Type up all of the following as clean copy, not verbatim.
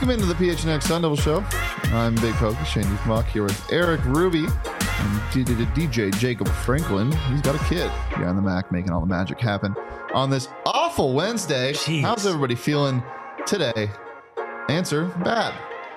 Welcome into the PHNX Sun Devil Show. I'm Big Pokey, Shane Dukemock, here with Eric Ruby and DJ Jacob Franklin. He's got a kid behind the Mac, making all the magic happen on this awful Wednesday. Jeez. How's everybody feeling today? Answer, bad.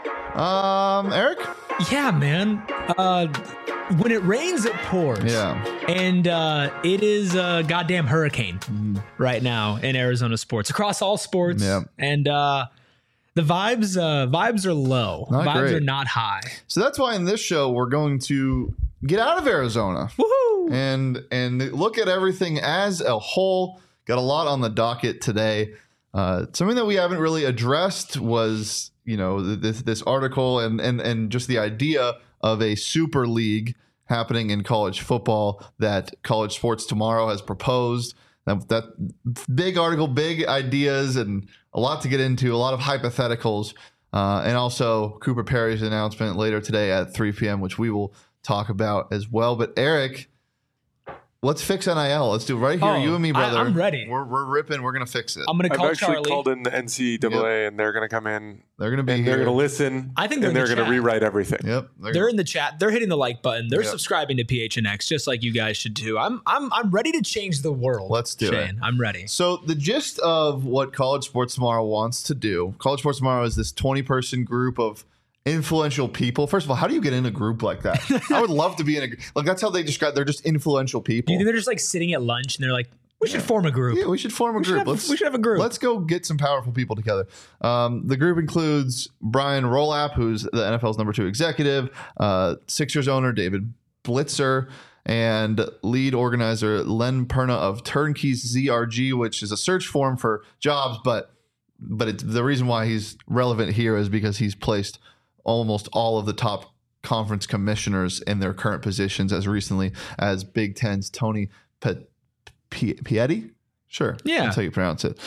Eric? Yeah, man. When it rains, it pours. Yeah. And it is a goddamn hurricane right now in Arizona sports, across all sports. Yeah. And the vibes are low. Not vibes great. are not high. So that's why in this show we're going to get out of Arizona. Woohoo! And look at everything as a whole. Got a lot on the docket today. Something that we haven't really addressed was, this article and just the idea of a super league happening in college football that College Sports Tomorrow has proposed. That big article, big ideas, and a lot to get into, a lot of hypotheticals, and also Cooper Perry's announcement later today at 3 p.m., which we will talk about as well. But Eric, let's fix NIL. Let's do it right here. You and me, brother. I'm ready. We're ripping. We're going to fix it. I'm going to call I've actually Charlie. called in the NCAA, and they're going to come in. They're going to be and here. they're going to listen. I think they're and in they're the going to chat. rewrite everything. Yep. They're in the chat. They're hitting the like button. They're Yep. subscribing to PHNX, just like you guys should too. I'm ready to change the world. Let's do it. Shane. I'm ready. So the gist of what College Sports Tomorrow wants to do, College Sports Tomorrow is this 20-person group of influential people. First of all, how do you get in a group like that? I would love to be in a that's how they describe. They're just influential Do people. you think they're just like sitting at lunch and they're like, we should form a group? Yeah, we should form a group. we should have a group. Let's go get some powerful people together. The group includes Brian Rolap, who's the NFL's number 2 executive, Sixers owner David Blitzer, and lead organizer Len Perna of Turnkeys ZRG, which is a search forum for jobs. But the reason why he's relevant here is because he's placed almost all of the top conference commissioners in their current positions as recently as Big Ten's Tony Pieti? Sure. Yeah. That's how you pronounce it.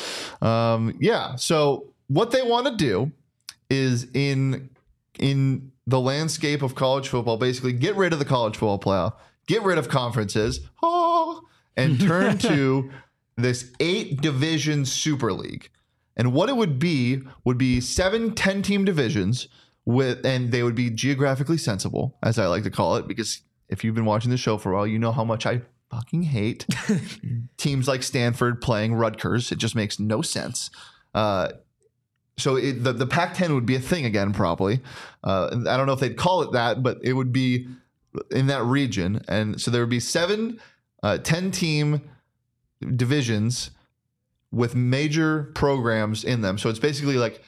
So what they want to do is in the landscape of college football, basically get rid of the college football playoff, get rid of conferences, and turn to this 8-division super league. And what it would be 7 10-team divisions and they would be geographically sensible, as I like to call it, because if you've been watching the show for a while, you know how much I fucking hate teams like Stanford playing Rutgers. It just makes no sense. So the Pac-10 would be a thing again, probably. I don't know if they'd call it that, but it would be in that region. And so there would be 7 10-team divisions with major programs in them. So it's basically like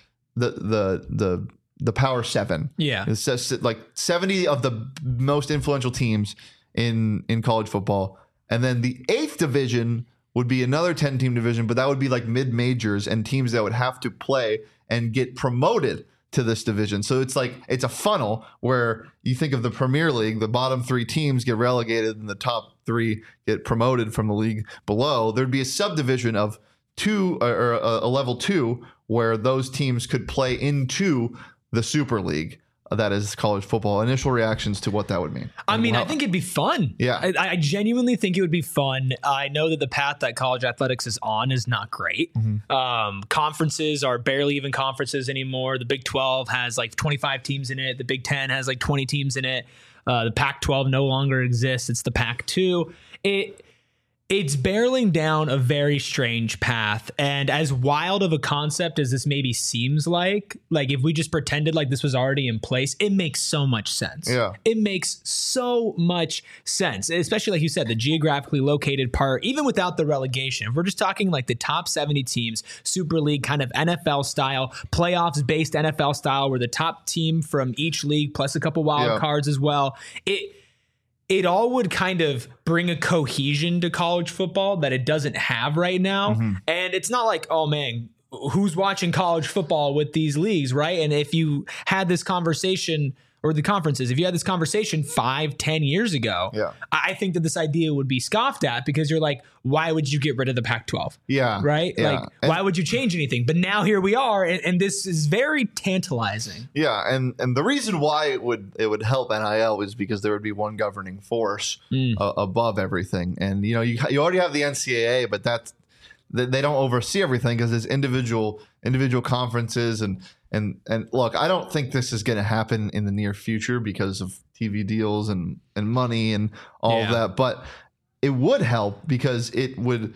the Power 7. Yeah. It's just like 70 of the most influential teams in college football. And then the 8th division would be another 10-team division, but that would be like mid-majors and teams that would have to play and get promoted to this division. So it's a funnel where you think of the Premier League, the bottom 3 teams get relegated and the top 3 get promoted from the league below. There'd be a subdivision of 2 or a level 2 where those teams could play into the Super League. That is college football. Initial reactions to what that would mean. I mean, I think it'd be fun. Yeah. I genuinely think it would be fun. I know that the path that college athletics is on is not great. Conferences are barely even conferences anymore. The Big 12 has like 25 teams in it. The Big 10 has like 20 teams in it. The Pac-12 no longer exists. It's the Pac-2. It's barreling down a very strange path. And as wild of a concept as this maybe seems like if we just pretended like this was already in place, it makes so much sense. Yeah. It makes so much sense, especially like you said, the geographically located part, even without the relegation. If we're just talking like the top 70 teams, Super League kind of NFL style, playoffs based NFL style, where the top team from each league plus a couple wild cards as well. It all would kind of bring a cohesion to college football that it doesn't have right now. And it's not like, oh man, who's watching college football with these leagues, right? And if you had this conversation, or the conferences, if you had this conversation 5-10 years ago, I think that this idea would be scoffed at, because you're like, why would you get rid of the Pac-12? Yeah. Right? Yeah. Like, why would you change anything? But now here we are, and this is very tantalizing. Yeah, and the reason why it would help NIL is because there would be one governing force above everything. And you already have the NCAA, but they don't oversee everything because there's individual conferences and And look, I don't think this is going to happen in the near future because of TV deals and money and all of that. But it would help because it would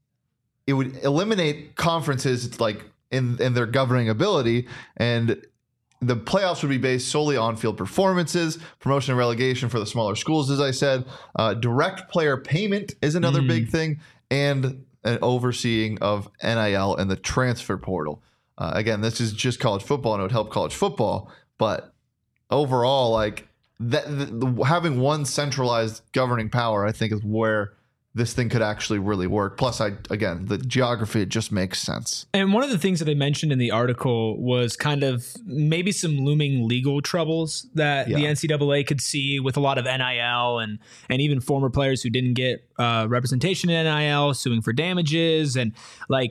eliminate conferences like in their governing ability, and the playoffs would be based solely on field performances, promotion and relegation for the smaller schools, as I said. Direct player payment is another big thing, and an overseeing of NIL and the transfer portal. Again, this is just college football, and it would help college football. But overall, like having one centralized governing power, I think, is where this thing could actually really work. Plus, again, the geography, it just makes sense. And one of the things that they mentioned in the article was kind of maybe some looming legal troubles that the NCAA could see with a lot of NIL and even former players who didn't get representation in NIL suing for damages. And like,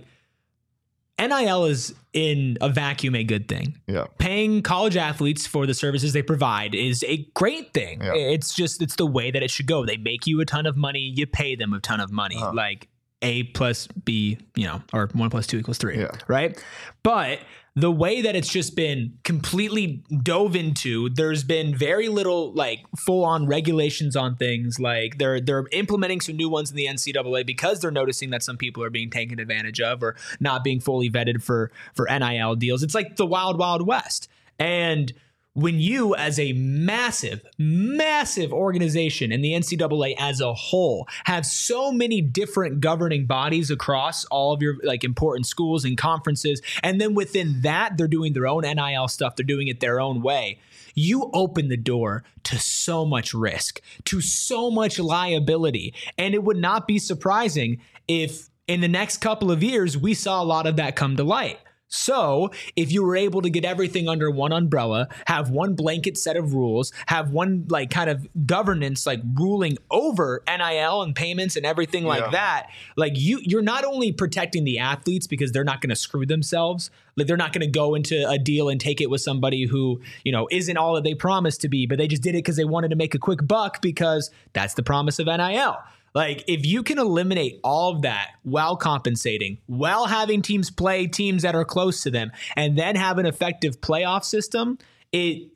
NIL is in a vacuum a good thing. Yeah. Paying college athletes for the services they provide is a great thing. Yeah. It's the way that it should go. They make you a ton of money. You pay them a ton of money. Like A plus B, or 1 + 2 = 3. Yeah. Right. But the way that it's just been completely dove into, there's been very little like full on regulations on things. Like they're implementing some new ones in the NCAA because they're noticing that some people are being taken advantage of or not being fully vetted for NIL deals. It's like the wild, wild west. And when you, as a massive, massive organization and the NCAA as a whole, have so many different governing bodies across all of your like important schools and conferences, and then within that, they're doing their own NIL stuff, they're doing it their own way, you open the door to so much risk, to so much liability. And it would not be surprising if in the next couple of years, we saw a lot of that come to light. So if you were able to get everything under one umbrella, have one blanket set of rules, have one like kind of governance, like ruling over NIL and payments and everything like that, like you're not only protecting the athletes because they're not going to screw themselves. Like they're not going to go into a deal and take it with somebody who, isn't all that they promised to be, but they just did it because they wanted to make a quick buck because that's the promise of NIL. Like, if you can eliminate all of that while compensating, while having teams play teams that are close to them, and then have an effective playoff system, it's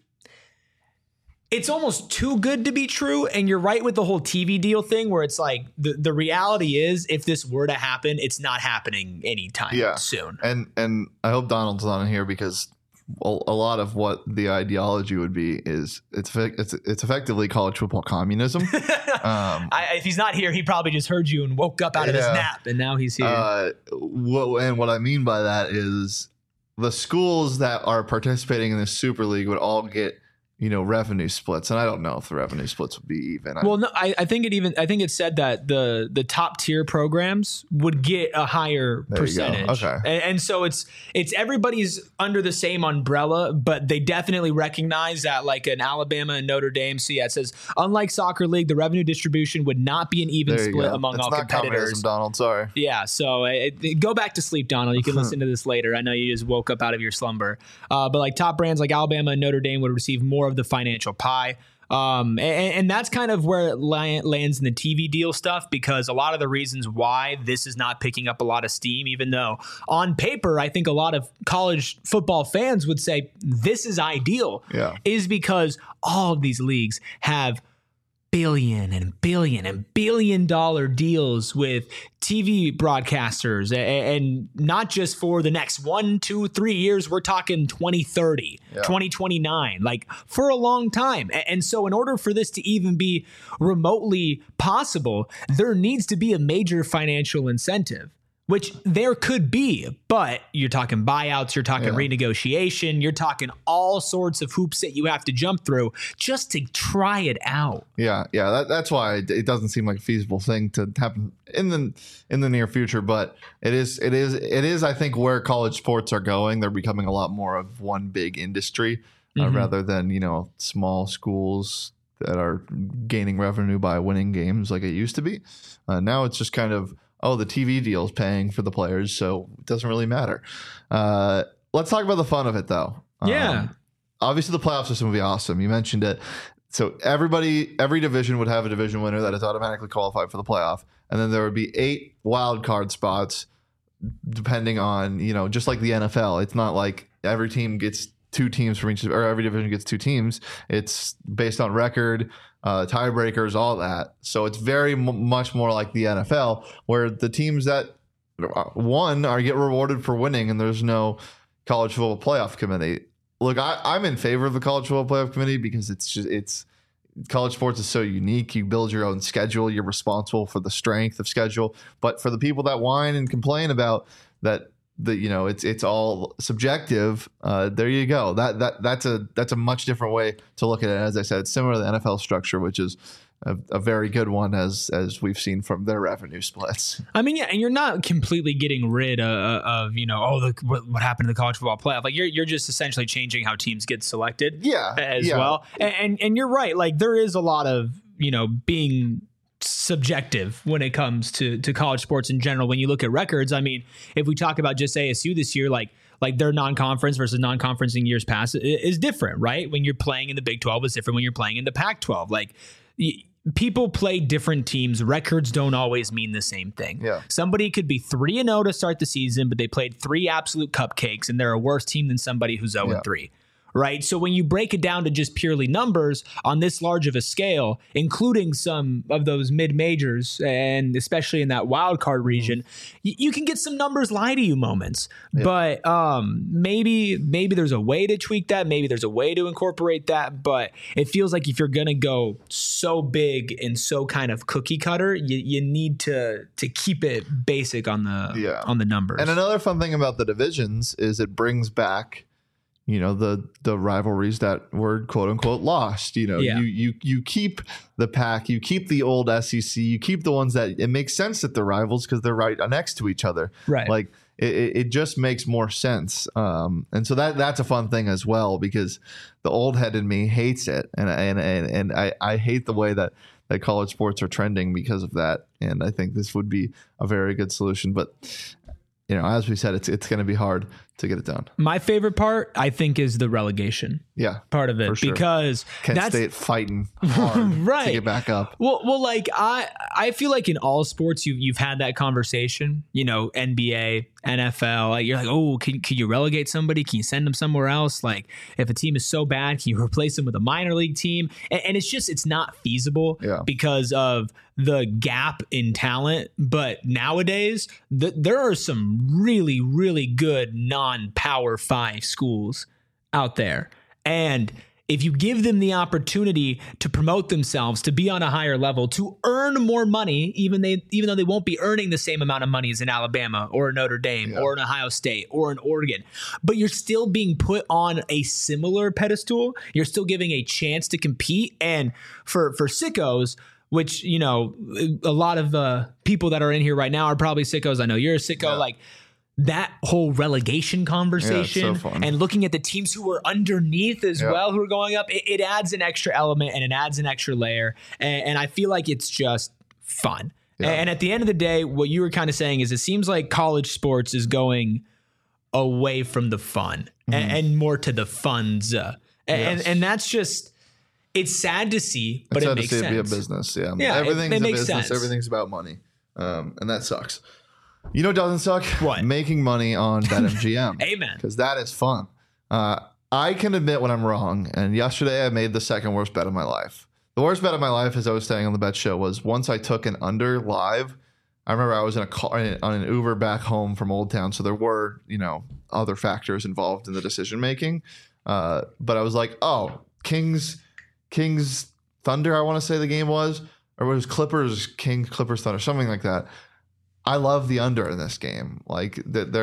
almost too good to be true. And you're right with the whole TV deal thing where it's like the reality is if this were to happen, it's not happening anytime soon. And I hope Donald's on here because a lot of what the ideology would be is it's effectively college football communism. If he's not here, he probably just heard you and woke up out of his nap, and now he's here. What I mean by that is the schools that are participating in this Super League would all get revenue splits, and I don't know if the revenue splits would be even. Well, no, I think it said that the top tier programs would get a higher percentage. Okay, and so it's everybody's under the same umbrella, but they definitely recognize that like an Alabama and Notre Dame. So yeah, it says unlike soccer league, the revenue distribution would not be an even split among all competitors. Donald, sorry. Yeah, so go back to sleep, Donald. You can listen to this later. I know you just woke up out of your slumber, but like top brands like Alabama and Notre Dame would receive more of the financial pie. And that's kind of where it lands in the TV deal stuff, because a lot of the reasons why this is not picking up a lot of steam, even though on paper, I think a lot of college football fans would say this is ideal, is because all of these leagues have billion and billion dollar deals with TV broadcasters, and not just for the next 1, 2, 3 years. We're talking 2030, 2029, like for a long time. And so in order for this to even be remotely possible, there needs to be a major financial incentive, which there could be, but you're talking buyouts, you're talking renegotiation, you're talking all sorts of hoops that you have to jump through just to try it out. Yeah. That's why it doesn't seem like a feasible thing to happen in the near future, but it is. I think where college sports are going, they're becoming a lot more of one big industry rather than small schools that are gaining revenue by winning games like it used to be. Now it's just kind of, the TV deal is paying for the players, so it doesn't really matter. Let's talk about the fun of it, though. Obviously, the playoff system would be awesome. You mentioned it. So every division would have a division winner that is automatically qualified for the playoff. And then there would be 8 wild card spots depending on, just like the NFL. It's not like every team gets 2 teams from each, or every division gets 2 teams. It's based on record, tiebreakers, all that. So it's very much more like the NFL, where the teams that won get rewarded for winning, and there's no college football playoff committee. Look, I'm in favor of the college football playoff committee because it's college sports is so unique. You build your own schedule. You're responsible for the strength of schedule. But for the people that whine and complain about that, it's all subjective. There you go. That's a much different way to look at it. As I said, it's similar to the NFL structure, which is a very good one, as we've seen from their revenue splits. I mean, yeah, and you're not completely getting rid of what happened to the college football playoff. Like you're just essentially changing how teams get selected. Well. And you're right. Like there is a lot of being subjective when it comes to college sports in general. When you look at records, I mean, if we talk about just ASU this year, like their non-conference versus non-conference in years past is different, right? When you're playing in the Big 12, it's different when you're playing in the Pac-12. Like people play different teams. Records don't always mean the same thing. Yeah. Somebody could be 3-0 to start the season, but they played 3 absolute cupcakes, and they're a worse team than somebody who's 0-3. Right. So when you break it down to just purely numbers on this large of a scale, including some of those mid-majors and especially in that wild card region, you can get some numbers lie to you moments. Yeah. But maybe there's a way to tweak that. Maybe there's a way to incorporate that. But it feels like if you're going to go so big and so kind of cookie cutter, you need to keep it basic on the numbers. And another fun thing about the divisions is it brings back the rivalries that were quote unquote lost. You keep the Pac, you keep the old SEC, you keep the ones that it makes sense that they're rivals because they're right next to each other. Right. Like it just makes more sense. And so that's a fun thing as well, because the old head in me hates it. And I hate the way that college sports are trending because of that. And I think this would be a very good solution. But as we said, it's going to be hard to get it done. My favorite part, I think, is the relegation. Part of it, sure. Because Kent State fighting hard right. to get back up. Well, like I feel like in all sports you've had that conversation. NBA, NFL. Like you're like, oh, can you relegate somebody? Can you send them somewhere else? Like if a team is so bad, can you replace them with a minor league team? And it's not feasible because of the gap in talent. But nowadays, there are some really, really good non-Power 5 schools out there. And if you give them the opportunity to promote themselves, to be on a higher level, to earn more money, even though they won't be earning the same amount of money as in Alabama or Notre Dame or in Ohio State or in Oregon, but you're still being put on a similar pedestal. You're still giving a chance to compete. And for sickos, which, a lot of people that are in here right now are probably sickos. I know you're a sicko. Yeah. Like that whole relegation conversation and looking at the teams who are underneath as well, who are going up, it adds an extra element and it adds an extra layer. And I feel like it's just fun. Yeah. And at the end of the day, what you were kind of saying is it seems like college sports is going away from the fun and more to the funds. And that's just, it's sad to see, but it makes sense. It's sad to see it be a business. Yeah, everything's it a makes business. Sense. Everything's about money. And that sucks. You know what doesn't suck? What? Making money on BetMGM. Amen. Because that is fun. I can admit when I'm wrong. And yesterday I made the second worst bet of my life. The worst bet of my life, as I was saying on the bet show, was once I took an under live. I remember I was in a car on an Uber back home from Old Town. So there were, other factors involved in the decision making. But I was like, oh, Kings Thunder, I want to say the game was. Or it was Kings, Clippers, Thunder, something like that. I love the under in this game. Like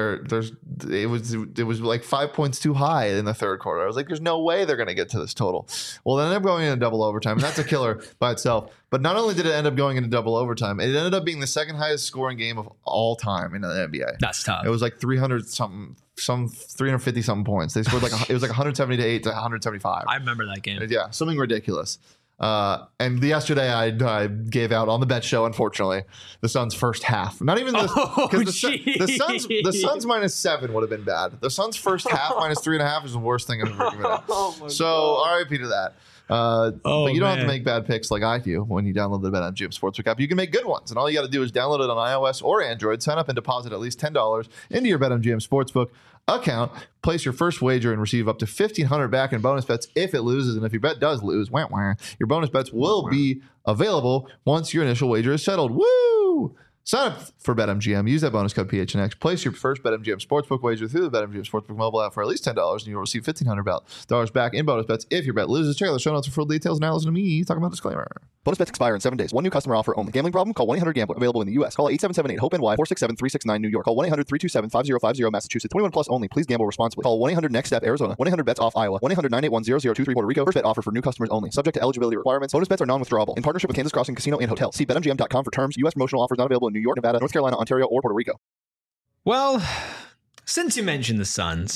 it was like 5 points too high in the third quarter. I was like, there's no way they're going to get to this total. Well, they ended up going into double overtime, and that's a killer by itself. But not only did it end up going into double overtime, it ended up being the second highest scoring game of all time in the NBA. That's tough. It was like 350 something points. They scored it was like 178 to 175. I remember that game. Yeah, something ridiculous. And yesterday I gave out on the bet show, unfortunately, the Suns' first half. Not even the Suns -7 would have been bad. The Suns' first half -3.5 is the worst thing I've ever given out. So RIP to that. But you don't have to man. make bad picks like I do when you download the BetMGM Sportsbook app. You can make good ones, and all you got to do is download it on iOS or Android, sign up and deposit at least $10 into your BetMGM Sportsbook account, place your first wager, and receive up to $1,500 back in bonus bets if it loses. And if your bet does lose, your bonus bets will be available once your initial wager is settled. Woo! Sign up for BetMGM. Use that bonus code PHNX. Place your first BetMGM Sportsbook wager through the BetMGM Sportsbook mobile app for at least $10, and you'll receive $1,500 back in bonus bets if your bet loses. Check out the show notes for full details. Now listen to me talking about disclaimer. Bonus bets expire in 7 days. One new customer offer only. Gambling problem? Call 1-800-GAMBLER. Available in the U.S. Call 877-8-HOPE-NY 467-369 New York. Call 1-800-327-5050 Massachusetts. 21 plus only. Please gamble responsibly. Call 1-800-NEXT-STEP Arizona. 1-800-BETS-OFF Iowa. 1-800-981-0023 Puerto Rico. First bet offer for new customers only. Subject to eligibility requirements. Bonus bets are non-withdrawable. In partnership with Kansas Crossing Casino and Hotel. See BetMGM.com for terms. U.S. promotional offers not available in New York, Nevada, North Carolina, Ontario, or Puerto Rico. Well, since you mentioned the Suns,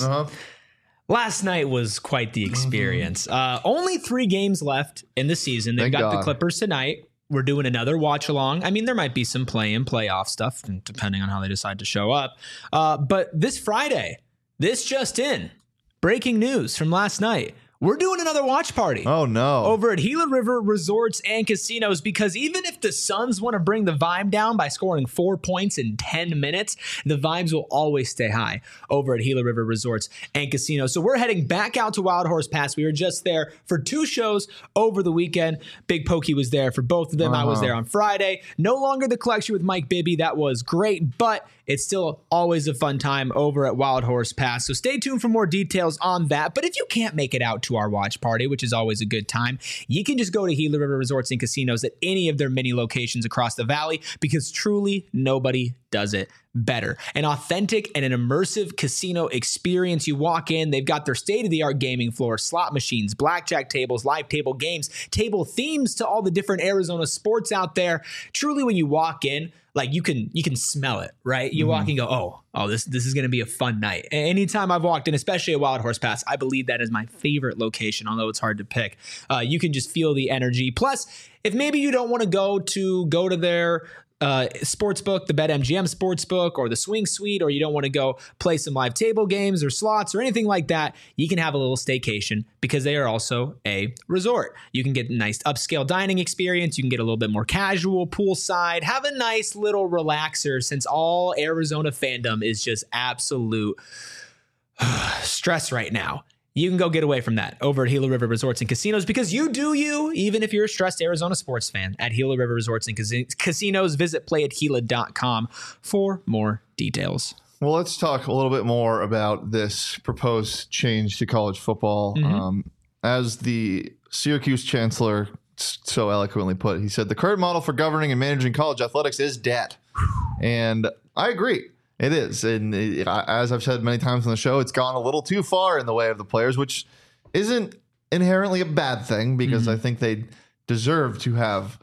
last night was quite the experience. Only 3 games left in the season. They've Thank got God. the Clippers tonight. We're doing another watch along. I mean, there might be some play-in, playoff stuff, depending on how they decide to show up. But this Friday, this just in, breaking news from last night. We're doing another watch party. Oh, no. Over at Gila River Resorts and Casinos, because even if the Suns want to bring the vibe down by scoring 4 points in 10 minutes, the vibes will always stay high over at Gila River Resorts and Casinos. So we're heading back out to Wild Horse Pass. We were just there for 2 shows over the weekend. Big Pokey was there for both of them. I was there on Friday. No longer the collection with Mike Bibby. That was great, but it's still always a fun time over at Wild Horse Pass. So stay tuned for more details on that. But if you can't make it out to our watch party, which is always a good time, you can just go to Gila River Resorts and Casinos at any of their many locations across the valley, because truly nobody does it better. An authentic and an immersive casino experience. You walk in, they've got their state-of-the-art gaming floor, slot machines, blackjack tables, live table games, table themes to all the different Arizona sports out there. Truly, when you walk in, like you can smell it, right? You walk in and go, oh, this is going to be a fun night. Anytime I've walked in, especially at Wild Horse Pass, I believe that is my favorite location, although it's hard to pick. You can just feel the energy. Plus, if maybe you don't want to go to their sportsbook, the BetMGM sportsbook, or the Swing Suite, or you don't want to go play some live table games or slots or anything like that, you can have a little staycation, because they are also a resort. You can get a nice upscale dining experience. You can get a little bit more casual poolside, have a nice little relaxer, since all Arizona fandom is just absolute stress right now. You can go get away from that over at Gila River Resorts and Casinos, because you do you, even if you're a stressed Arizona sports fan. At Gila River Resorts and Casinos, visit playatgila.com for more details. Well, let's talk a little bit more about this proposed change to college football. As the Syracuse chancellor so eloquently put, he said, the current model for governing and managing college athletics is dead. And I agree. It is. And as I've said many times on the show, it's gone a little too far in the way of the players, which isn't inherently a bad thing, because I think they deserve to have,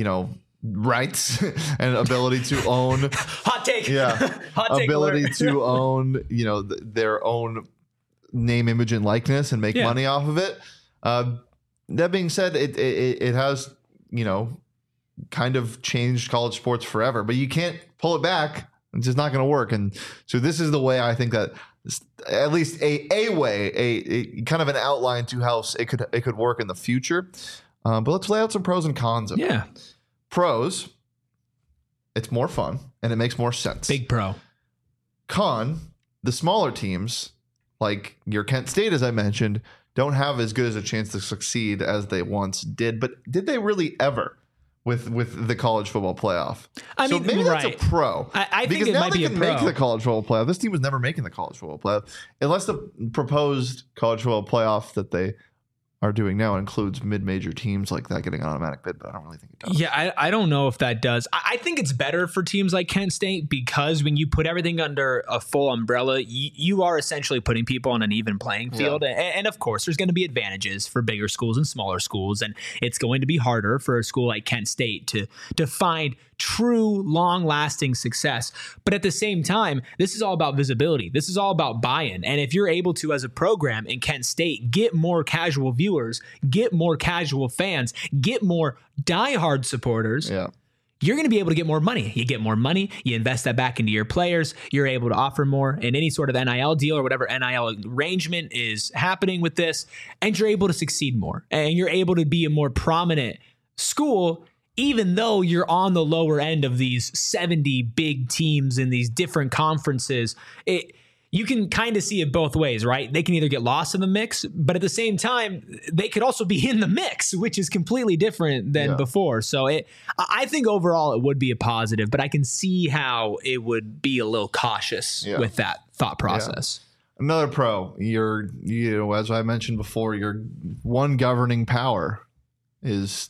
rights and ability to own. Hot take. Yeah. Hot take ability alert. to own, their own name, image, and likeness, and make money off of it. That being said, it has, kind of changed college sports forever, but you can't pull it back. It's just not going to work. And so this is the way I think that, at least a way, a kind of an outline to how it could work in the future. But let's lay out some pros and cons of it. Pros, it's more fun and it makes more sense. Big pro. Con, the smaller teams, like your Kent State, as I mentioned, don't have as good as a chance to succeed as they once did. But did they really ever? With the college football playoff. I mean, maybe that's a pro. I think because it now might they be a can pro. make the college football playoff. This team was never making the college football playoff unless the proposed college football playoff that they are doing now includes mid-major teams like that getting an automatic bid, but I don't really think it does. Yeah, I don't know if that does. I think it's better for teams like Kent State, because when you put everything under a full umbrella, you are essentially putting people on an even playing field. Yeah. And of course, there's going to be advantages for bigger schools and smaller schools, and it's going to be harder for a school like Kent State to find true long-lasting success. But at the same time, this is all about visibility. This is all about buy-in. And if you're able to, as a program in Kent State, get more casual viewers, get more casual fans, get more diehard supporters, you're going to be able to get more money. You get more money, you invest that back into your players, you're able to offer more in any sort of NIL deal or whatever NIL arrangement is happening with this, and you're able to succeed more. And you're able to be a more prominent school, even though you're on the lower end of these 70 big teams in these different conferences. You can kind of see it both ways, right? They can either get lost in the mix, but at the same time, they could also be in the mix, which is completely different than before. So I think overall it would be a positive, but I can see how it would be a little cautious with that thought process. Another pro, as I mentioned before, your one governing power is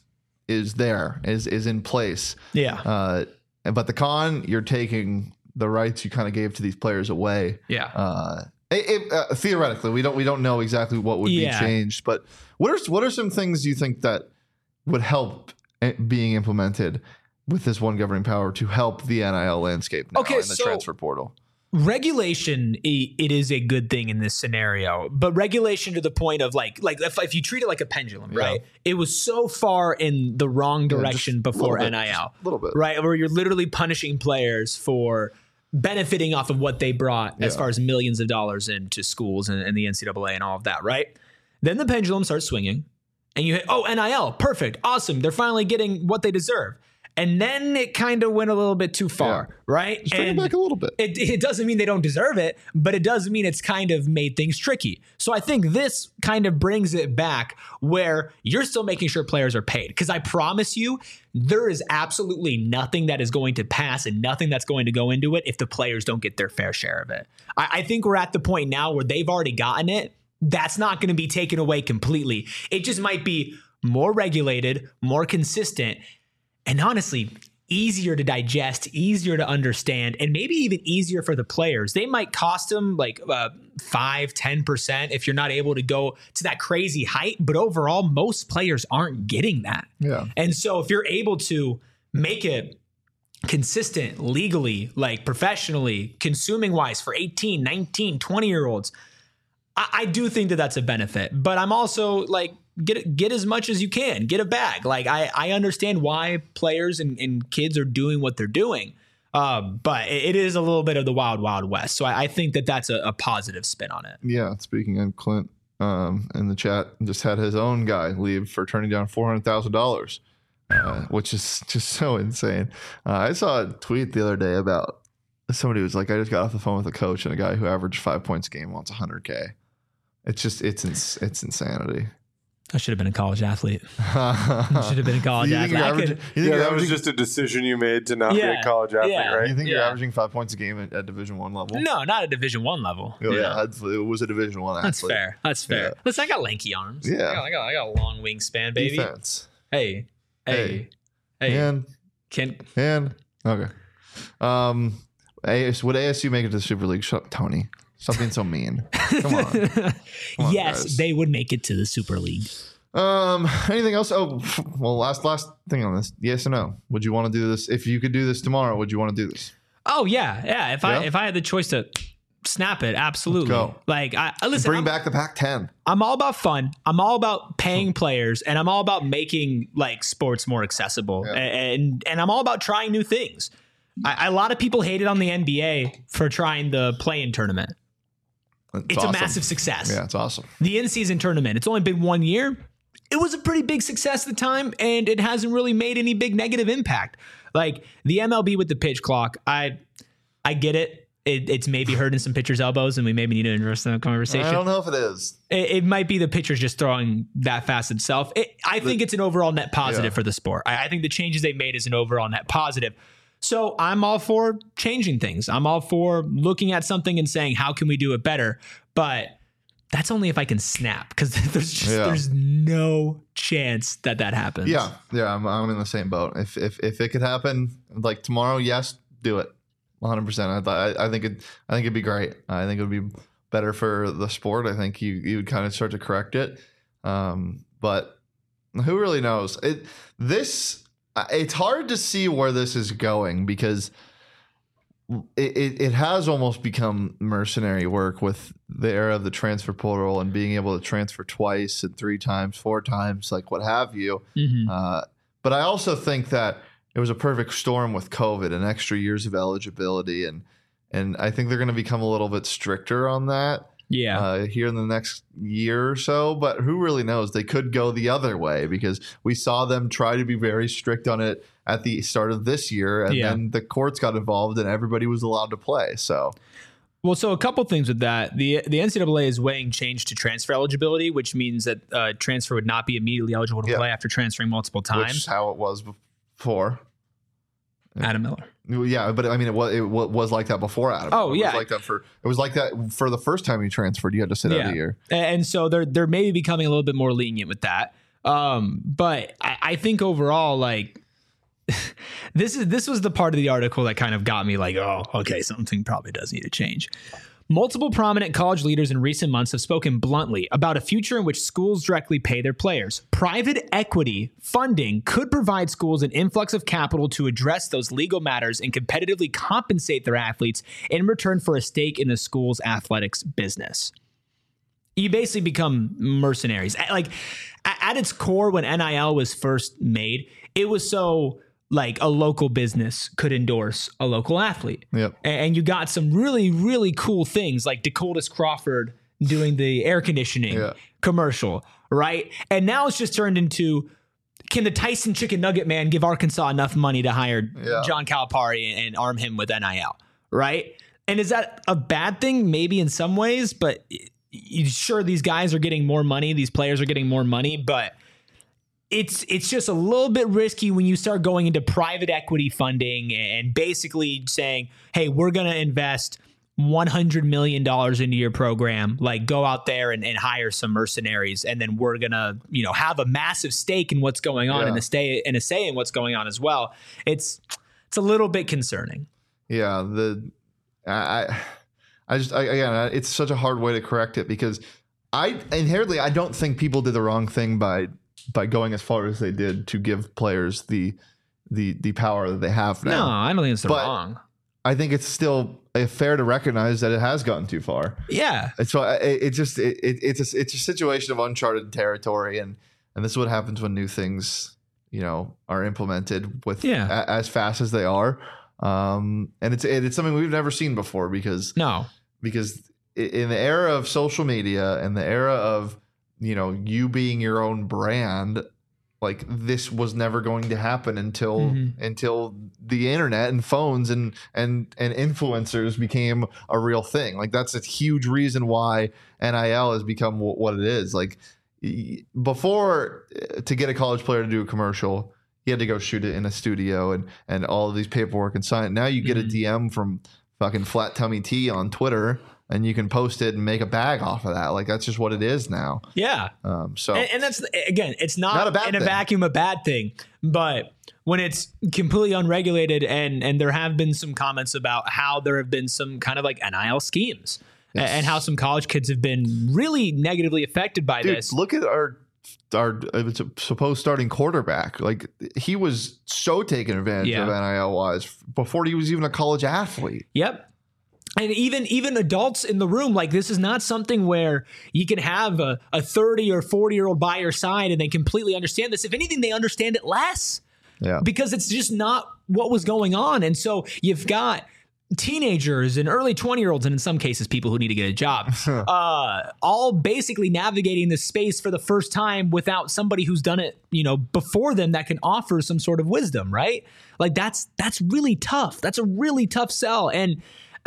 in place. Yeah. But the con, you're taking the rights you kind of gave to these players away. Yeah. Theoretically, we don't know exactly what would be changed, but what are some things you think that would help being implemented with this one governing power to help the NIL landscape now in the transfer portal? Regulation, it is a good thing in this scenario, but regulation to the point of like if you treat it like a pendulum, right? It was so far in the wrong direction before NIL, a little bit, right? Where you're literally punishing players for benefiting off of what they brought as far as millions of dollars into schools and the NCAA and all of that, right? Then the pendulum starts swinging and you hit, NIL, perfect, awesome. They're finally getting what they deserve. And then it kind of went a little bit too far, right? Just bring it back a little bit. It doesn't mean they don't deserve it, but it does mean it's kind of made things tricky. So I think this kind of brings it back where you're still making sure players are paid. Because I promise you, there is absolutely nothing that is going to pass and nothing that's going to go into it if the players don't get their fair share of it. I think we're at the point now where they've already gotten it. That's not going to be taken away completely. It just might be more regulated, more consistent, and honestly, easier to digest, easier to understand, and maybe even easier for the players. They might cost them like 5-10% if you're not able to go to that crazy height. But overall, most players aren't getting that. Yeah. And so if you're able to make it consistent legally, like professionally, consuming wise for 18, 19, 20-year-olds, I do think that that's a benefit. But I'm also like, get as much as you can, get a bag. Like I understand why players and kids are doing what they're doing. But it is a little bit of the wild, wild west. So I think that that's a positive spin on it. Yeah. Speaking of Clint, in the chat, just had his own guy leave for turning down $400,000, which is just so insane. I saw a tweet the other day about somebody who was like, I just got off the phone with a coach and a guy who averaged 5 points a game wants $100K. It's just, it's insanity. I should have been a college athlete. I should have been a college athlete. That was just a decision you made to not be a college athlete, right? You think you're averaging 5 points a game at Division I level? No, not at Division I level. Oh, yeah. It was a Division I athlete. That's fair. Yeah. Listen, I got lanky arms. Yeah. I got a long wingspan, baby. Defense. Hey. And okay. Would ASU make it to the Super League? Shut up, Tony. Stop being so mean. Come on. Yes, guys. They would make it to the Super League. Anything else? Oh, well, last thing on this. Yes or no? Would you want to do this? If you could do this tomorrow, would you want to do this? Oh yeah. If I had the choice to snap it, absolutely. Let's go. Like listen, bring back the Pac-10. I'm all about fun. I'm all about paying players, and I'm all about making like sports more accessible. Yeah. And I'm all about trying new things. A lot of people hated on the NBA for trying the play-in tournament. It's awesome. A massive success. Yeah, it's awesome. The in-season tournament, it's only been 1 year. It was a pretty big success at the time, and it hasn't really made any big negative impact. Like the MLB with the pitch clock, I get it. It's maybe hurting some pitchers' elbows, and we maybe need to address that conversation. I don't know if it is. It might be the pitchers just throwing that fast itself. I think it's an overall net positive for the sport. I think the changes they made is an overall net positive. So I'm all for changing things. I'm all for looking at something and saying, how can we do it better? But that's only if I can snap, because there's no chance that happens. Yeah. I'm in the same boat. If it could happen like tomorrow, yes, do it 100%. I think it'd be great. I think it would be better for the sport. I think you would kind of start to correct it. But who really knows? It's hard to see where this is going, because it has almost become mercenary work with the era of the transfer portal and being able to transfer twice and 3 times, 4 times, like what have you. Mm-hmm. But I also think that it was a perfect storm with COVID and extra years of eligibility, and I think they're going to become a little bit stricter on that. Yeah. Here in the next year or so, but who really knows? They could go the other way because we saw them try to be very strict on it at the start of this year, and then the courts got involved and everybody was allowed to play. So, well, so a couple things with that. The NCAA is weighing change to transfer eligibility, which means that transfer would not be immediately eligible to play after transferring multiple times. Which is how it was before. Adam Miller. Yeah, but I mean, it was like that before Adam. Oh, it was like that for the first time you transferred. You had to sit out a year, and so they're maybe becoming a little bit more lenient with that. But I think overall, like this was the part of the article that kind of got me like, oh, okay, something probably does need to change. Multiple prominent college leaders in recent months have spoken bluntly about a future in which schools directly pay their players. Private equity funding could provide schools an influx of capital to address those legal matters and competitively compensate their athletes in return for a stake in the school's athletics business. You basically become mercenaries. Like at its core, when NIL was first made, it was so like a local business could endorse a local athlete. Yep. And you got some really, really cool things like Dakotas Crawford doing the air conditioning commercial, right? And now it's just turned into, can the Tyson Chicken Nugget man give Arkansas enough money to hire John Calipari and arm him with NIL, right? And is that a bad thing? Maybe in some ways, but sure, these guys are getting more money. These players are getting more money, but it's just a little bit risky when you start going into private equity funding and basically saying, hey, we're going to invest $100 million into your program. Like, go out there and hire some mercenaries. And then we're going to, have a massive stake in what's going on and a say in what's going on as well. It's a little bit concerning. Yeah. Again, it's such a hard way to correct it because I don't think people did the wrong thing by going as far as they did to give players the power that they have now. No, I don't think it's wrong. I think it's still fair to recognize that it has gotten too far. Yeah. And so it's a situation of uncharted territory, and this is what happens when new things, are implemented with as fast as they are. And it's something we've never seen before because in the era of social media and the era of you being your own brand, like this was never going to happen until the internet and phones and influencers became a real thing. Like that's a huge reason why NIL has become what it is. Like before, to get a college player to do a commercial, you had to go shoot it in a studio and all of these paperwork and sign it. Now you get a DM from fucking Flat Tummy Tea on Twitter, and you can post it and make a bag off of that. Like that's just what it is now. Yeah. So and that's, again, it's not in a vacuum a bad thing, but when it's completely unregulated and there have been some comments about how there have been some kind of like NIL schemes and how some college kids have been really negatively affected by this. Look at our supposed starting quarterback. Like he was so taken advantage of NIL wise before he was even a college athlete. Yep. And even adults in the room, like this is not something where you can have a 30 or 40-year-old by your side and they completely understand this. If anything, they understand it less because it's just not what was going on. And so you've got teenagers and early 20-year-olds, and in some cases, people who need to get a job, all basically navigating this space for the first time without somebody who's done it, before them that can offer some sort of wisdom, right? Like that's really tough. That's a really tough sell. And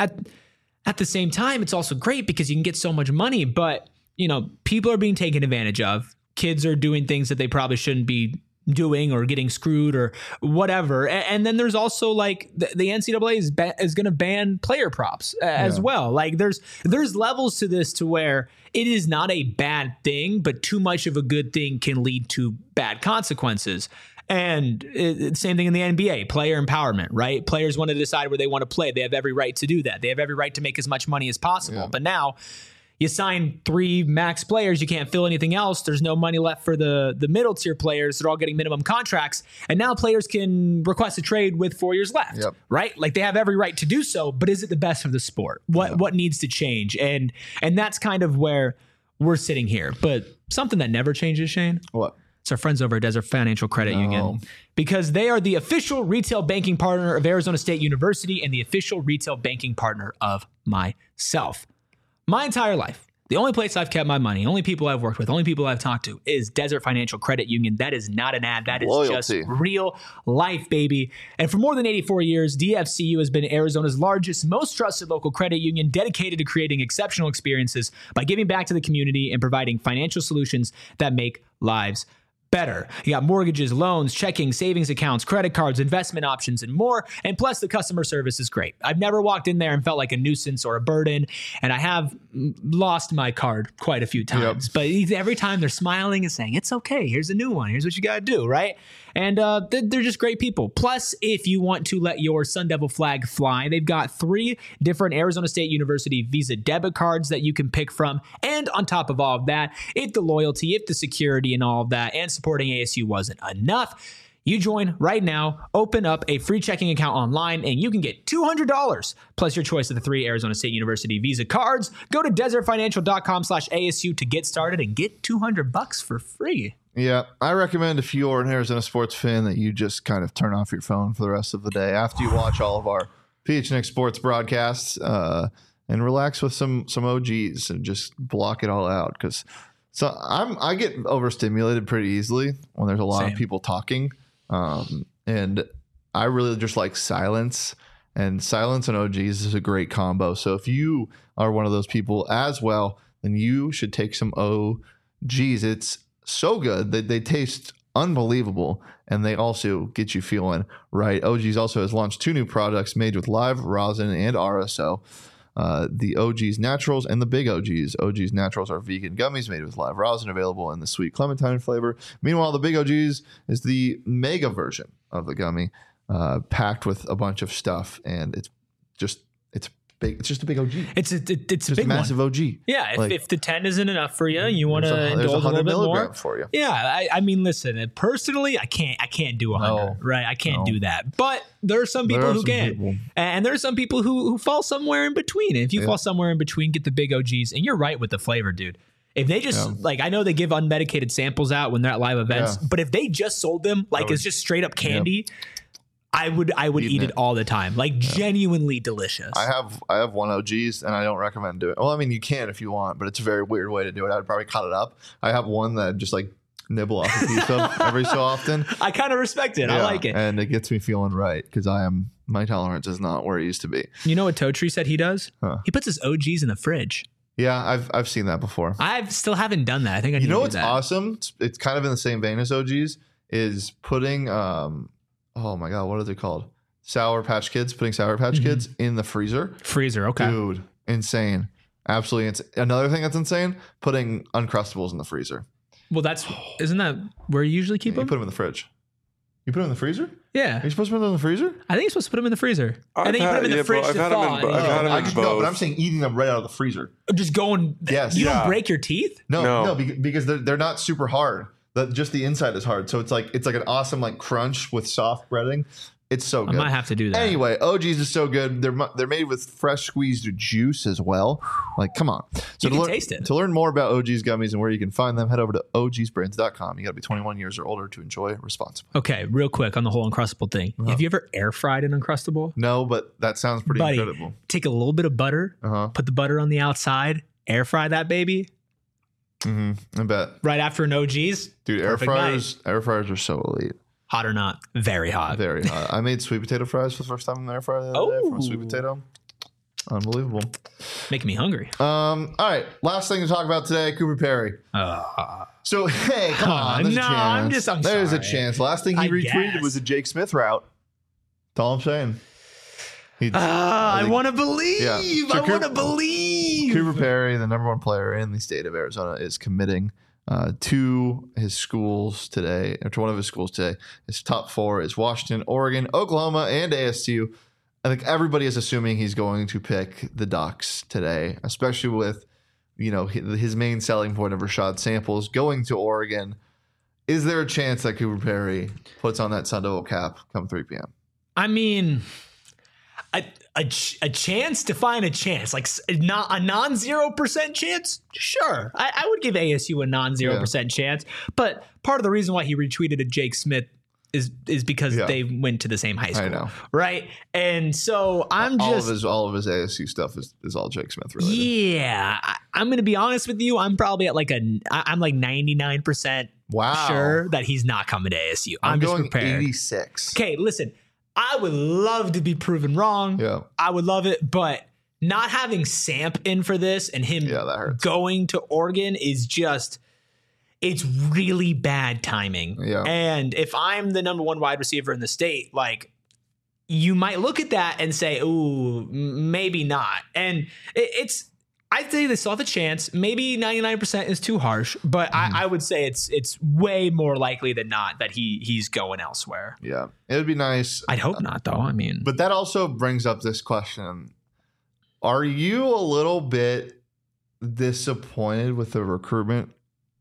at the same time, it's also great because you can get so much money, but people are being taken advantage of. Kids are doing things that they probably shouldn't be doing or getting screwed or whatever. And then there's also like the NCAA is going to ban player props as well. Like there's levels to this to where it is not a bad thing, but too much of a good thing can lead to bad consequences. And same thing in the NBA, player empowerment, right? Players want to decide where they want to play. They have every right to do that. They have every right to make as much money as possible. But now you sign 3 max players, you can't fill anything else. There's no money left for the middle tier players. They're all getting minimum contracts. And now players can request a trade with 4 years left, right? Like they have every right to do so, but is it the best for the sport? What needs to change? And that's kind of where we're sitting here. But something that never changes, Shane. What? It's our friends over at Desert Financial Credit Union, because they are the official retail banking partner of Arizona State University and the official retail banking partner of myself. My entire life, the only place I've kept my money, only people I've worked with, only people I've talked to is Desert Financial Credit Union. That is not an ad. That is just real life, baby. And for more than 84 years, DFCU has been Arizona's largest, most trusted local credit union, dedicated to creating exceptional experiences by giving back to the community and providing financial solutions that make lives better. You got mortgages, loans, checking, savings accounts, credit cards, investment options, and more. And plus, the customer service is great. I've never walked in there and felt like a nuisance or a burden. And I have lost my card quite a few times. But every time they're smiling and saying, it's okay. Here's a new one. Here's what you got to do, right? And they're just great people. Plus, if you want to let your Sun Devil flag fly, they've got 3 different Arizona State University Visa debit cards that you can pick from. And on top of all of that, if the loyalty, if the security and all of that, and supporting ASU wasn't enough, you join right now, open up a free checking account online, and you can get $200 plus your choice of the 3 Arizona State University Visa cards. Go to desertfinancial.com/ASU to get started and get $200 for free. Yeah, I recommend if you're an Arizona sports fan that you just kind of turn off your phone for the rest of the day after you watch all of our PHNX sports broadcasts and relax with some OGs and just block it all out. Because I get overstimulated pretty easily when there's a lot of people talking, and I really just like silence. And silence and OGs is a great combo. So if you are one of those people as well, then you should take some OGs. It's so good that they taste unbelievable, and they also get you feeling right. OGs also has launched 2 new products made with live rosin and RSO. The OGs Naturals and the Big OGs. OGs Naturals are vegan gummies made with live rosin, available in the sweet clementine flavor. Meanwhile, the Big OGs is the mega version of the gummy, packed with a bunch of stuff, and it's big. It's just a big OG. It's a big massive one. OG. Yeah, if the 10 isn't enough for you, you want to indulge a little bit more for you. Yeah, I mean, listen. Personally, I can't do 100. Right, I can't do that. But there are some people who can, and there are some people who fall somewhere in between. And if you fall somewhere in between, get the Big OGs, and you're right with the flavor, dude. If they just I know they give unmedicated samples out when they're at live events, but if they just sold them it's just straight up candy. I would eat it all the time. Genuinely delicious. I have 1 OGs, and I don't recommend doing it. Well, I mean, you can if you want, but it's a very weird way to do it. I would probably cut it up. I have one that I just nibble off a piece of every so often. I kind of respect it. I like it. And it gets me feeling right, because my tolerance is not where it used to be. You know what Toe Tree said he does? He puts his OGs in the fridge. Yeah, I've seen that before. I still haven't done that. I think I need to do that. What's awesome? It's kind of in the same vein as OGs, is putting oh my God, what are they called? Sour Patch Kids, putting Sour Patch Kids in the freezer. Okay. Dude, insane. Absolutely insane. Another thing that's insane, putting Uncrustables in the freezer. Well, isn't that where you usually keep them? You put them in the fridge. You put them in the freezer? Yeah. Are you supposed to put them in the freezer? I think you're supposed to put them in the freezer. And then you put them in the fridge to thaw. I've had them in both. No, but I'm saying eating them right out of the freezer. Just going. Yes. You don't break your teeth? No, because they're not super hard. Just the inside is hard. So it's like an awesome crunch with soft breading. It's so good. I might have to do that. Anyway, OGs is so good. They're made with fresh squeezed juice as well. Come on. So you can taste it. To learn more about OGs gummies and where you can find them, head over to ogsbrands.com. You got to be 21 years or older to enjoy responsibly. Okay, real quick on the whole Uncrustable thing. Have you ever air fried an Uncrustable? No, but that sounds pretty incredible. Take a little bit of butter, put the butter on the outside, air fry that baby. I bet. Right after an OGs. Dude, air fryers are so elite. Hot or not? Very hot. Very hot. I made sweet potato fries for the first time in the air fryer the other day from a sweet potato. Unbelievable. Making me hungry. All right. Last thing to talk about today, Cooper Perry. So, hey, come on. There's a chance. There's a chance. Last thing he retweeted was a Jake Smith route. That's all I'm saying. I want to believe. Yeah. So I want to believe. Cooper Perry, the number 1 player in the state of Arizona, is committing to his schools today, or to one of his schools today. His top 4 is Washington, Oregon, Oklahoma, and ASU. I think everybody is assuming he's going to pick the Ducks today, especially with his main selling point of Rashad Samples going to Oregon. Is there a chance that Cooper Perry puts on that Sun Devil cap come 3 p.m.? I mean, a chance to find a chance, like not a non-0% chance. Sure, I would give ASU a non-0% chance, but part of the reason why he retweeted a Jake Smith is because they went to the same high school, I know. Right? And so I'm all of his ASU stuff is all Jake Smith related. Yeah, I'm going to be honest with you. I'm probably at I'm like 99% sure that he's not coming to ASU. I'm just going prepared. 86. Okay, listen, I would love to be proven wrong. Yeah. I would love it, but not having Samp in for this and him that hurts. going to Oregon is just, it's really bad timing. Yeah. And if I'm the number one wide receiver in the state, like, you might look at that and say, ooh, maybe not. And I'd say they still have a chance. Maybe 99% is too harsh, but I would say it's way more likely than not that he's going elsewhere. Yeah. It would be nice. I'd hope not, though. I mean, but that also brings up this question. Are you a little bit disappointed with the recruitment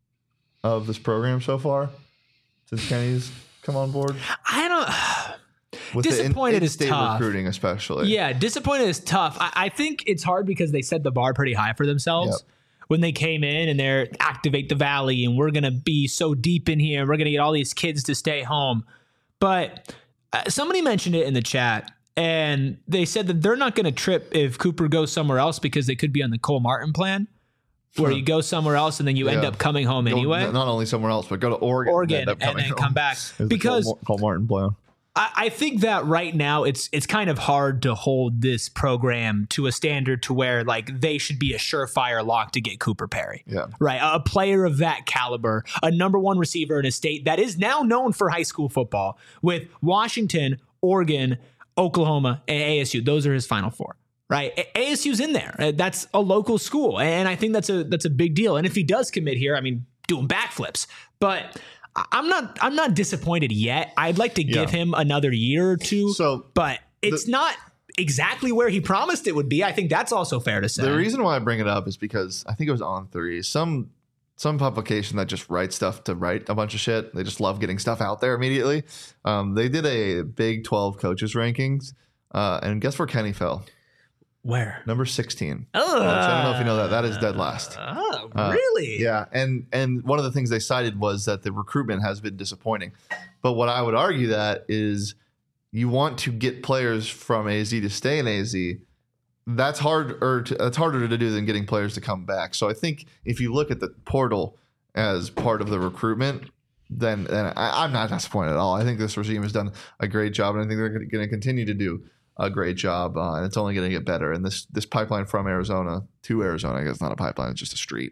of this program so far since Kenny's come on board? I don't. With disappointed the is tough. Recruiting, especially. Yeah, disappointed is tough. I think it's hard because they set the bar pretty high for themselves when they came in and they're activate the valley and we're gonna be so deep in here and we're gonna get all these kids to stay home. But somebody mentioned it in the chat. And they said that they're not going to trip if Cooper goes somewhere else because they could be on the Cole Martin plan, where you go somewhere else and then you end up coming home anyway. Not only somewhere else, but go to Oregon and then come back. Because Cole Martin plan. I think that right now it's kind of hard to hold this program to a standard to where like they should be a surefire lock to get Cooper Perry. Yeah. Right. A player of that caliber, a number one receiver in a state that is now known for high school football with Washington, Oregon, Oklahoma, and ASU. Those are his final four, right? ASU's in there. That's a local school. And I think that's a big deal. And if he does commit here, I mean, doing backflips. But I'm not disappointed yet. I'd like to give him another year or two. But it's not exactly where he promised it would be. I think that's also fair to say. The reason why I bring it up is because I think it was On3. Some publication that just writes stuff to write a bunch of shit. They just love getting stuff out there immediately. They did a Big 12 coaches rankings, and guess where Kenny fell? Where? Number 16. I don't know if you know that. That is dead last. Oh, really? Yeah, and one of the things they cited was that the recruitment has been disappointing. But what I would argue that is you want to get players from AZ to stay in AZ. That's harder to do than getting players to come back. So I think if you look at the portal as part of the recruitment, then I'm not disappointed at all. I think this regime has done a great job, and I think they're going to continue to do a great job, and it's only going to get better. And this pipeline from Arizona to Arizona, I guess it's not a pipeline, it's just a street.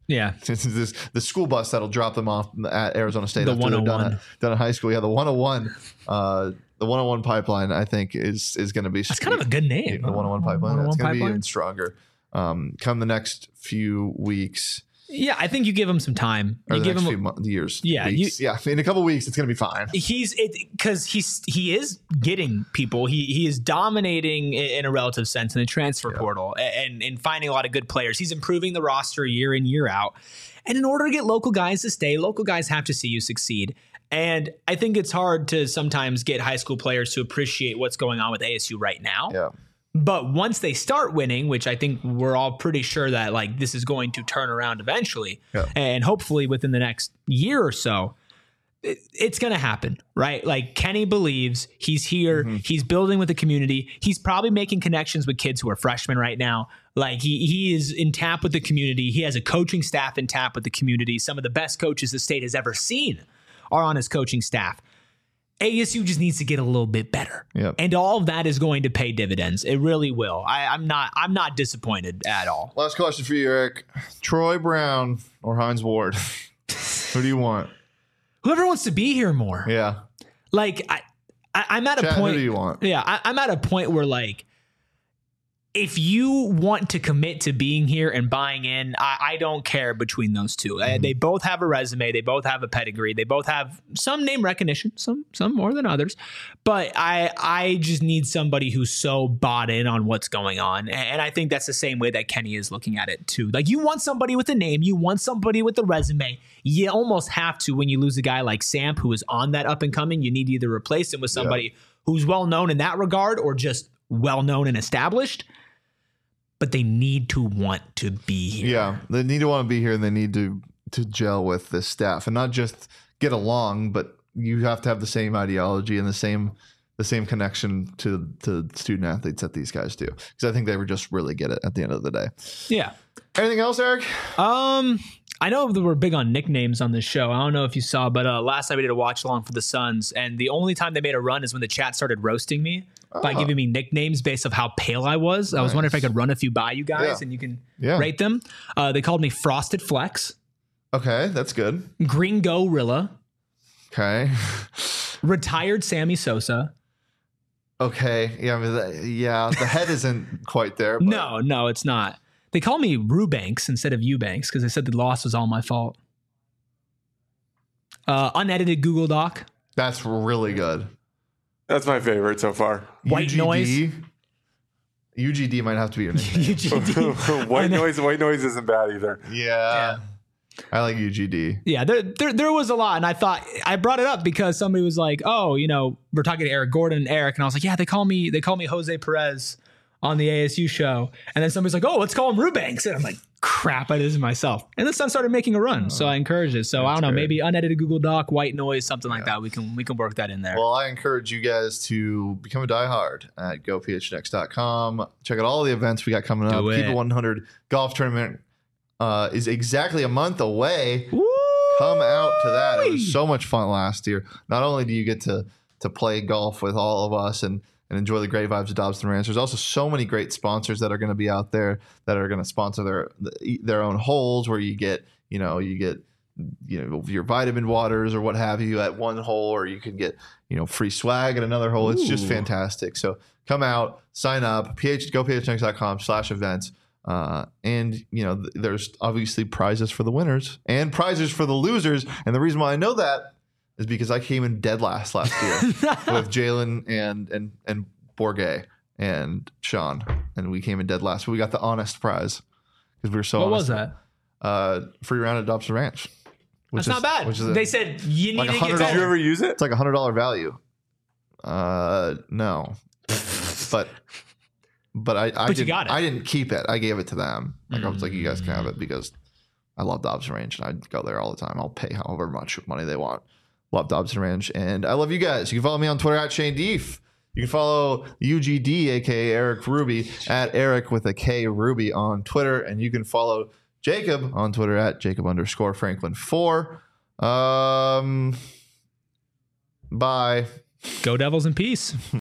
The school bus that'll drop them off at Arizona State the after 101. they're done in high school. Yeah, the 101. The 101 pipeline, I think, is going to be. That's kind of a good name. The 101 pipeline. It's going to be even pipeline? stronger. Come the next few weeks. Yeah, I think you give him some time. Or You the give next him few years. Yeah, weeks. In a couple weeks, it's going to be fine. Because he is getting people. He is dominating in a relative sense in the transfer portal and finding a lot of good players. He's improving the roster year in, year out. And in order to get local guys to stay, local guys have to see you succeed. And I think it's hard to sometimes get high school players to appreciate what's going on with ASU right now. Yeah. But once they start winning, which I think we're all pretty sure that like this is going to turn around eventually, and hopefully within the next year or so, it's going to happen, right? Like Kenny believes he's here. Mm-hmm. He's building with the community. He's probably making connections with kids who are freshmen right now. Like he is in tap with the community. He has a coaching staff in tap with the community. Some of the best coaches the state has ever seen are on his coaching staff. ASU just needs to get a little bit better. Yep. And all of that is going to pay dividends. It really will. I'm not disappointed at all. Last question for you, Eric. Troy Brown or Hines Ward? Who do you want? Whoever wants to be here more. Yeah. Like I'm at a point. Who do you want? Yeah, I'm at a point where like, if you want to commit to being here and buying in, I don't care between those two. Mm-hmm. They both have a resume. They both have a pedigree. They both have some name recognition, some more than others. But I just need somebody who's so bought in on what's going on. And I think that's the same way that Kenny is looking at it too. Like you want somebody with a name. You want somebody with a resume. You almost have to when you lose a guy like Samp who is on that up and coming. You need to either replace him with somebody who's well known in that regard or just well known and established, but they need to want to be here. Yeah, they need to want to be here, and they need to gel with this staff, and not just get along, but you have to have the same ideology and the same connection to student athletes that these guys do, because I think they were just really get it at the end of the day. Yeah. Anything else, Eric? I know that we're big on nicknames on this show. I don't know if you saw, but last night we did a watch along for the Suns, and the only time they made a run is when the chat started roasting me by giving me nicknames based off how pale I was. I was wondering if I could run a few by you guys and you can rate them. They called me Frosted Flex. Okay, that's good. Green Gorilla. Okay. Retired Sammy Sosa. Okay. Yeah, the head isn't quite there. But. No, it's not. They call me Rubanks instead of Eubanks because they said the loss was all my fault. Unedited Google Doc. That's really good. That's my favorite so far. White UGD. Noise. UGD might have to be your name. UGD. White noise isn't bad either. Yeah. I like UGD. Yeah, there was a lot, and I thought I brought it up because somebody was like, "Oh, we're talking to Eric Gordon and Eric," and I was like, "Yeah, they call me Jose Perez on the ASU show," and then somebody's like, "Oh, let's call him Rubanks," and I'm like, "Crap, I did this myself." And the Sun started making a run, so I encouraged it. So I don't know, maybe unedited Google Doc, white noise, something like that. We can work that in there. Well, I encourage you guys to become a diehard at gophnx.com. Check out all the events we got coming up. Keep It 100 golf tournament is exactly a month away. Woo! Come out to that. It was so much fun last year. Not only do you get to play golf with all of us and enjoy the great vibes of Dobson Ranch, there's also so many great sponsors that are going to be out there that are going to sponsor their own holes, where you get your vitamin waters or what have you at one hole, or you can get free swag at another hole. It's just fantastic. So come out, sign up, gophnx.com/events. And there's obviously prizes for the winners and prizes for the losers. And the reason why I know that is because I came in dead last year with Jalen and Borgay and Sean, and we came in dead last. But we got the honest prize because we were so. What honest. was that? Free round at Dobson Ranch. That's not bad. They said you need to get Did better. you ever use it? It's like $100 value. No, but you got it. I didn't keep it. I gave it to them. I was like, you guys can have it because I love Dobson Ranch and I go there all the time. I'll pay however much money they want. Love Dobson Ranch, and I love you guys. You can follow me on Twitter at Shane Deef. You can follow UGD, aka Eric Ruby, at Eric with a K Ruby on Twitter, and you can follow Jacob on Twitter at Jacob_Franklin4. Bye. Go Devils in peace.